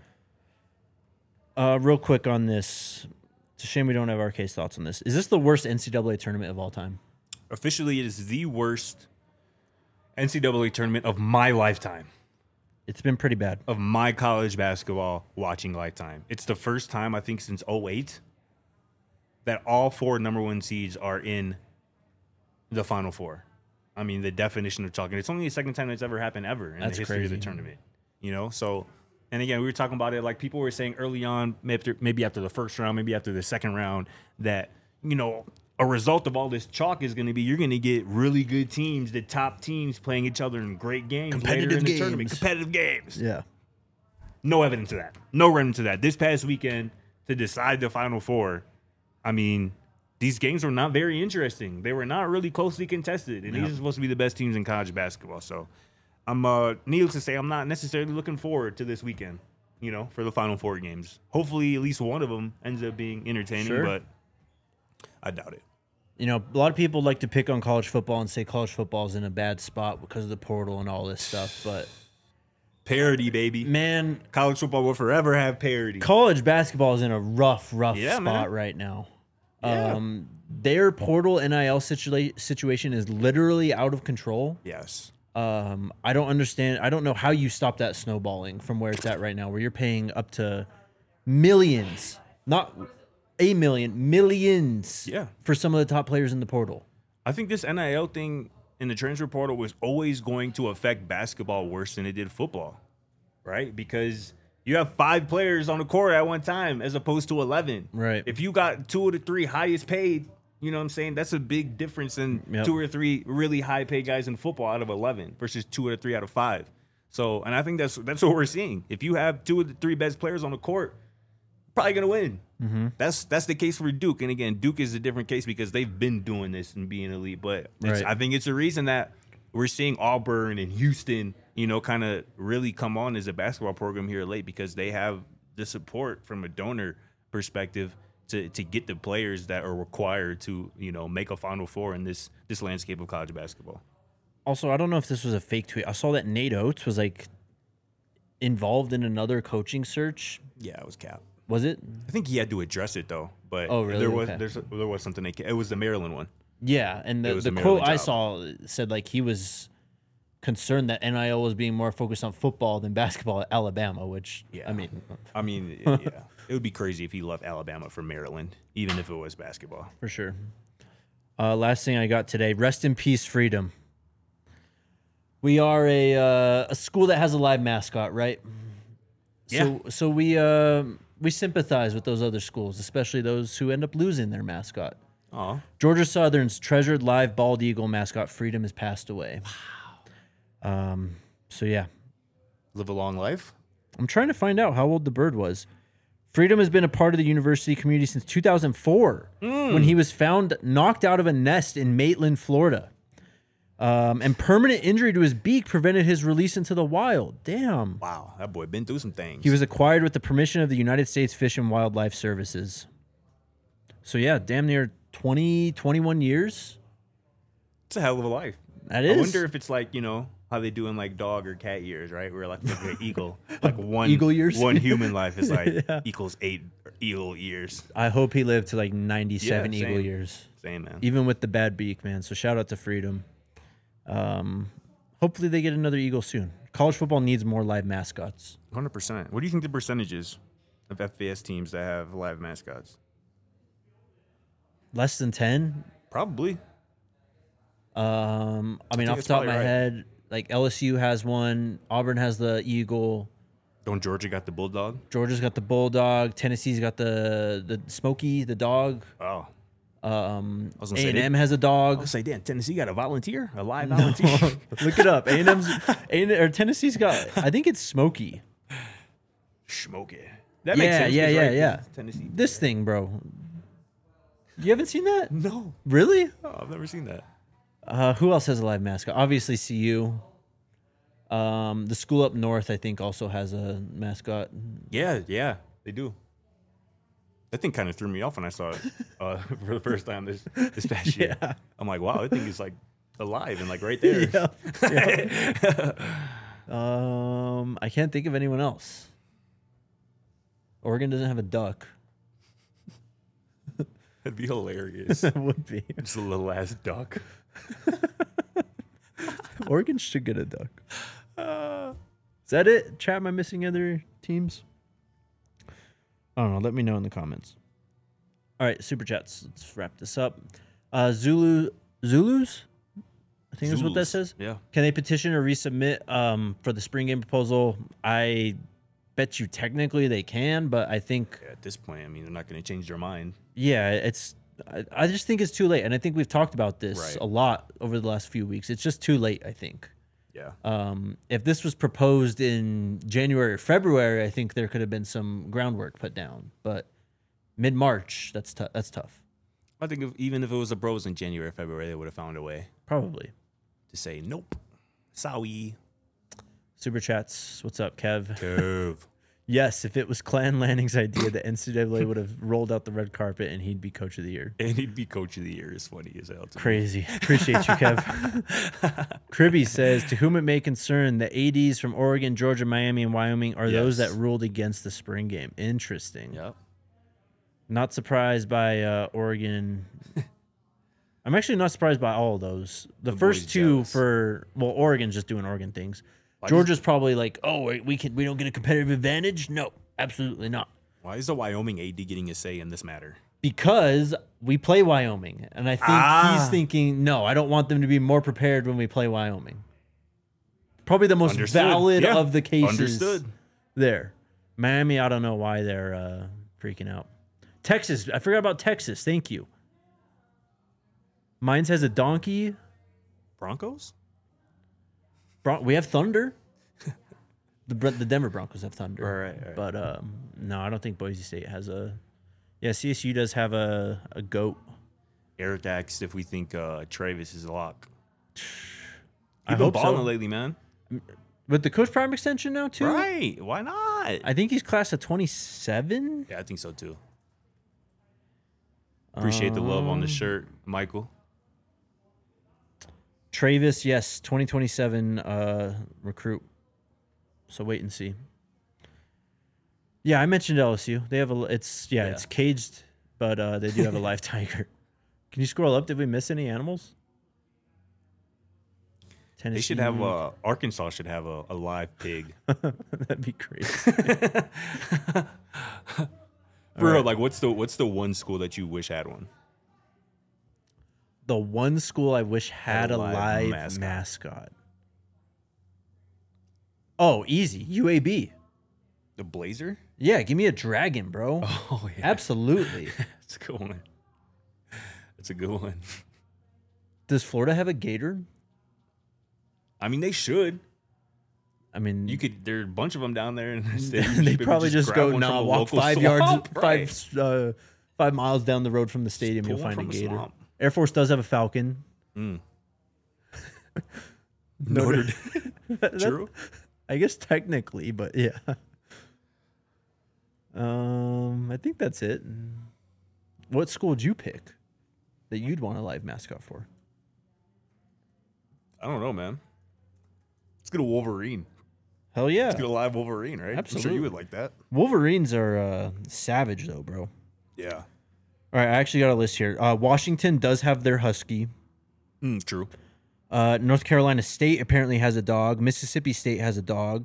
Real quick on this. It's a shame we don't have RK's thoughts on this. Is this the worst NCAA tournament of all time? Officially, it is the worst NCAA tournament of my lifetime, It's been pretty bad. of my college basketball watching lifetime. It's the first time, I think, since 2008 that all 4 number 1 seeds are in the Final Four. I mean, the definition of chalk. And it's only the second time that's ever happened ever in That's the history of crazy. the tournament. So, and again, we were talking about it like people were saying early on, maybe after the first round, maybe after the second round, that, a result of all this chalk is going to be you're going to get really good teams, the top teams playing each other in great games later in the tournament. Competitive games. Yeah. No evidence of that. No evidence of that. This past weekend, to decide the Final Four, I mean, these games were not very interesting. They were not really closely contested, and these are supposed to be the best teams in college basketball. So, needless to say, I'm not necessarily looking forward to this weekend, for the Final Four games. Hopefully, at least one of them ends up being entertaining, Sure. but I doubt it. A lot of people like to pick on college football and say college football is in a bad spot because of the portal and all this stuff. But, Parity, baby. man, College football will forever have parity. college basketball is in a rough Yeah, spot man. right now. Yeah. Their portal NIL situation is literally out of control. Yes. I don't understand. I don't know how you stop that snowballing from where it's at right now, where you're paying up to millions, not a million, millions Yeah. for some of the top players in the portal. I think this NIL thing in the transfer portal was always going to affect basketball worse than it did football, right? Because You have 5 players on the court at one time as opposed to 11. Right. If you got 2 of the 3 highest paid, you know what I'm saying? That's a big difference in Yep. 2 or 3 really high paid guys in football out of 11 versus 2 or 3 out of 5. So, and I think that's what we're seeing. If you have 2 of the 3 best players on the court, you're probably gonna win. Mm-hmm. That's the case for Duke. And again, Duke is a different case because they've been doing this and being elite. But Right. I think it's a reason that we're seeing Auburn and Houston, you know, kind of really come on as a basketball program here late because they have the support from a donor perspective to get the players that are required to, you know, make a Final Four in this landscape of college basketball. Also, I don't know if this was a fake tweet. I saw that Nate Oates was like involved in another coaching search. Yeah, it was cap. Was it? I think he had to address it though. But Oh, really? there was Okay. there was something it was the Maryland one. Yeah, and It the, was the a quote Maryland I job. saw said like he was concerned that NIL was being more focused on football than basketball at Alabama, which Yeah. I mean, yeah, it would be crazy if he left Alabama for Maryland, even if it was basketball. for sure. Last thing I got today: rest in peace, Freedom. We are a school that has a live mascot, right? So we sympathize with those other schools, especially those who end up losing their mascot. Aw. Georgia Southern's treasured live bald eagle mascot Freedom has passed away. So yeah, Live a long life. I'm trying to find out how old the bird was. Freedom has been a part of the university community since 2004, when he was found knocked out of a nest in Maitland, Florida. And permanent injury to his beak prevented his release into the wild. Damn. Wow, that boy been through some things. He was acquired with the permission of the United States Fish and Wildlife Services. So yeah, damn near 20, 21 years. It's a hell of a life. That is. I wonder if it's like, you know, how they do in like dog or cat years, right? Where like an eagle, like one Eagle years? one human life is like Yeah. equals 8 eagle years. I hope he lived to like 97 Yeah, eagle same. years. Same, man. Even with the bad beak, man. So shout out to Freedom. Hopefully they get another eagle soon. College football needs more live mascots. 100%. What do you think the percentage is of FBS teams that have live mascots? Less than 10. Probably. I mean, think off the it's top of my probably right. head, like LSU has one. Auburn has the eagle. Don't Georgia got the bulldog? Georgia's got the bulldog. Tennessee's got the Smokey, the dog. Oh. A was gonna say, and M has a dog. I was like, damn, Tennessee got a volunteer, a live volunteer. Look it up. A&M's or Tennessee's got. I think it's Smokey. Smoke it. That Yeah, makes sense. yeah, 'cause, yeah, right, yeah. Tennessee. This thing, bro. You haven't seen that? No, Really? I've never seen that. Who else has a live mascot? Obviously, CU. The school up north, I think, also has a mascot. Yeah, they do. That thing kind of threw me off when I saw it for the first time this past year. Yeah. I'm like, wow, that thing is like alive and like right there. Yep. I can't think of anyone else. Oregon doesn't have a duck. That'd be hilarious. That would be. Just a little ass duck. Oregon should get a duck. Is that it? Chat, am I missing other teams? I don't know. Let me know in the comments. All right, super chats. Let's wrap this up. Zulus? I think that's what that Zulus. says. Yeah. Can they petition or resubmit for the spring game proposal? I bet you technically they can, but I think, At this point, I mean, they're not going to change their mind. yeah, it's. I just think it's too late, and I think we've talked about this Right. a lot over the last few weeks. It's just too late, I think. Yeah. If this was proposed in January or February, I think there could have been some groundwork put down. But mid-March, that's tough. That's tough. I think even if it was a bros in January, February, they would have found a way Probably. to say, nope. Sorry. Super chats. What's up, Kev? Kev. Yes, if it was Clan Lanning's idea, the NCAA would have rolled out the red carpet and he'd be coach of the year. And he'd be coach of the year. It's funny as hell. to me. Crazy. Appreciate you, Kev. Cribby says, to whom it may concern, the ADs from Oregon, Georgia, Miami, and Wyoming are those Yes. that ruled against the spring game. Interesting. Yep. Not surprised by Oregon. I'm actually not surprised by all of those. The first boy's two jealous. Oregon's just doing Oregon things. Why Georgia's probably like, oh, we don't get a competitive advantage. No, absolutely not. Why is the Wyoming AD getting a say in this matter? Because we play Wyoming, and I think he's thinking, no, I don't want them to be more prepared when we play Wyoming. Probably the most Understood. valid Yeah. of the cases Understood. there. Miami, I don't know why they're freaking out. Texas, I forgot about Texas. Thank you. Mines has a donkey. Broncos? We have Thunder. The Denver Broncos have Thunder. Right. But no, I don't think Boise State has a. Yeah, CSU does have a goat. Eric asked if we think Travis is a lock. I You've been hope balling so. lately, man. With the Coach Prime extension now too. Right? Why not? I think he's class of 27. Yeah, I think so too. Appreciate the love on the shirt, Michael. Travis, yes, 2027 recruit. So wait and see. Yeah, I mentioned LSU. They have it's caged, but they do have a live tiger. Can you scroll up? Did we miss any animals? Tennessee. They should have Arkansas should have a live pig. That'd be crazy. For real, like what's the one school that you wish had one? The one school I wish had a live mascot. mascot. Oh, easy. UAB. The Blazer? Yeah, give me a dragon, bro. Oh yeah. Absolutely. That's a good one. That's a good one. Does Florida have a gator? I mean, they should. I mean, There are a bunch of them down there, and they probably just go walk 5 yards, right. 5 miles down the road from the stadium. pull You'll one find a from the gator. swamp. Air Force does have a falcon. Notre True. I guess technically, but yeah. I think that's it. What school would you pick that you'd want a live mascot for? I don't know, man. Let's get a Wolverine. Hell yeah. Let's get a live Wolverine, right? I'm Absolutely. sure you would like that. Wolverines are savage, though, bro. Yeah. All right, I actually got a list here. Washington does have their husky. True. North Carolina State apparently has a dog. Mississippi State has a dog.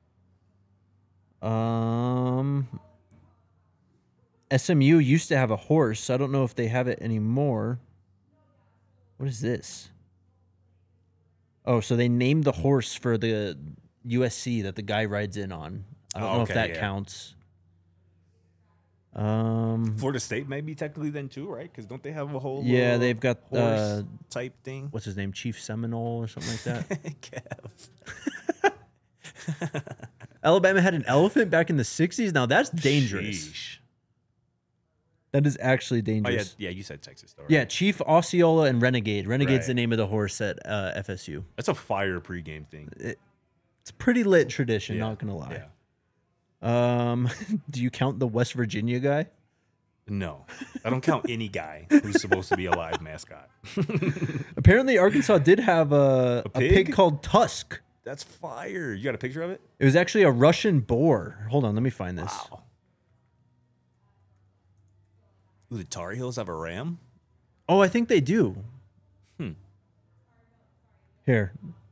SMU used to have a horse. I don't know if they have it anymore. What is this? Oh, so they named the horse for the USC that the guy rides in on. I don't know if that counts. Florida State maybe technically then too, right? Because don't they have a whole they've got horse type thing? what's his name, Chief Seminole or something like that. Kev. Alabama had an elephant back in the 60s. Now that's dangerous. Sheesh. That is actually Oh dangerous. yeah, you said Texas though. Right? Yeah, Chief Osceola and Renegade. Renegade's Right. the name of the horse at FSU. That's a fire pregame thing. It's a pretty lit tradition, Yeah, not gonna lie. Yeah. Do you count the West Virginia guy? No, I don't count any guy who's supposed to be a live mascot. Apparently, Arkansas did have a pig called Tusk. That's fire. You got a picture of it? It was actually a Russian boar. Hold on, let me find this. Wow. Ooh, the Tar Heels have a ram? Oh, I think they do. Here.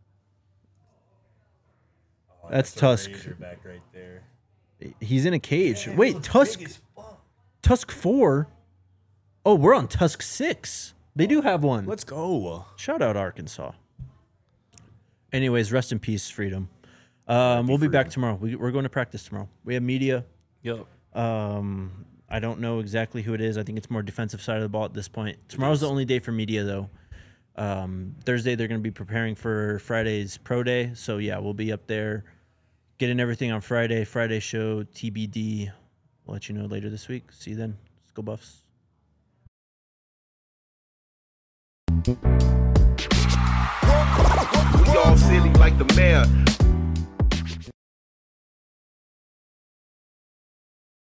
That's Tusk. Back right there. He's in a cage. Wait, Tusk 4? Oh, we're on Tusk 6. They do have one. Let's go. Shout out Arkansas. Anyways, rest in peace, Freedom. We'll be back tomorrow. We're going to practice tomorrow. We have media. Yep. I don't know exactly who it is. I think it's more defensive side of the ball at this point. Tomorrow's the only day for media, though. Thursday, they're going to be preparing for Friday's pro day. So, yeah, we'll be up there getting everything on Friday. Friday show, TBD. We'll let you know later this week. See you then. Let's go Buffs. We all silly like the mayor.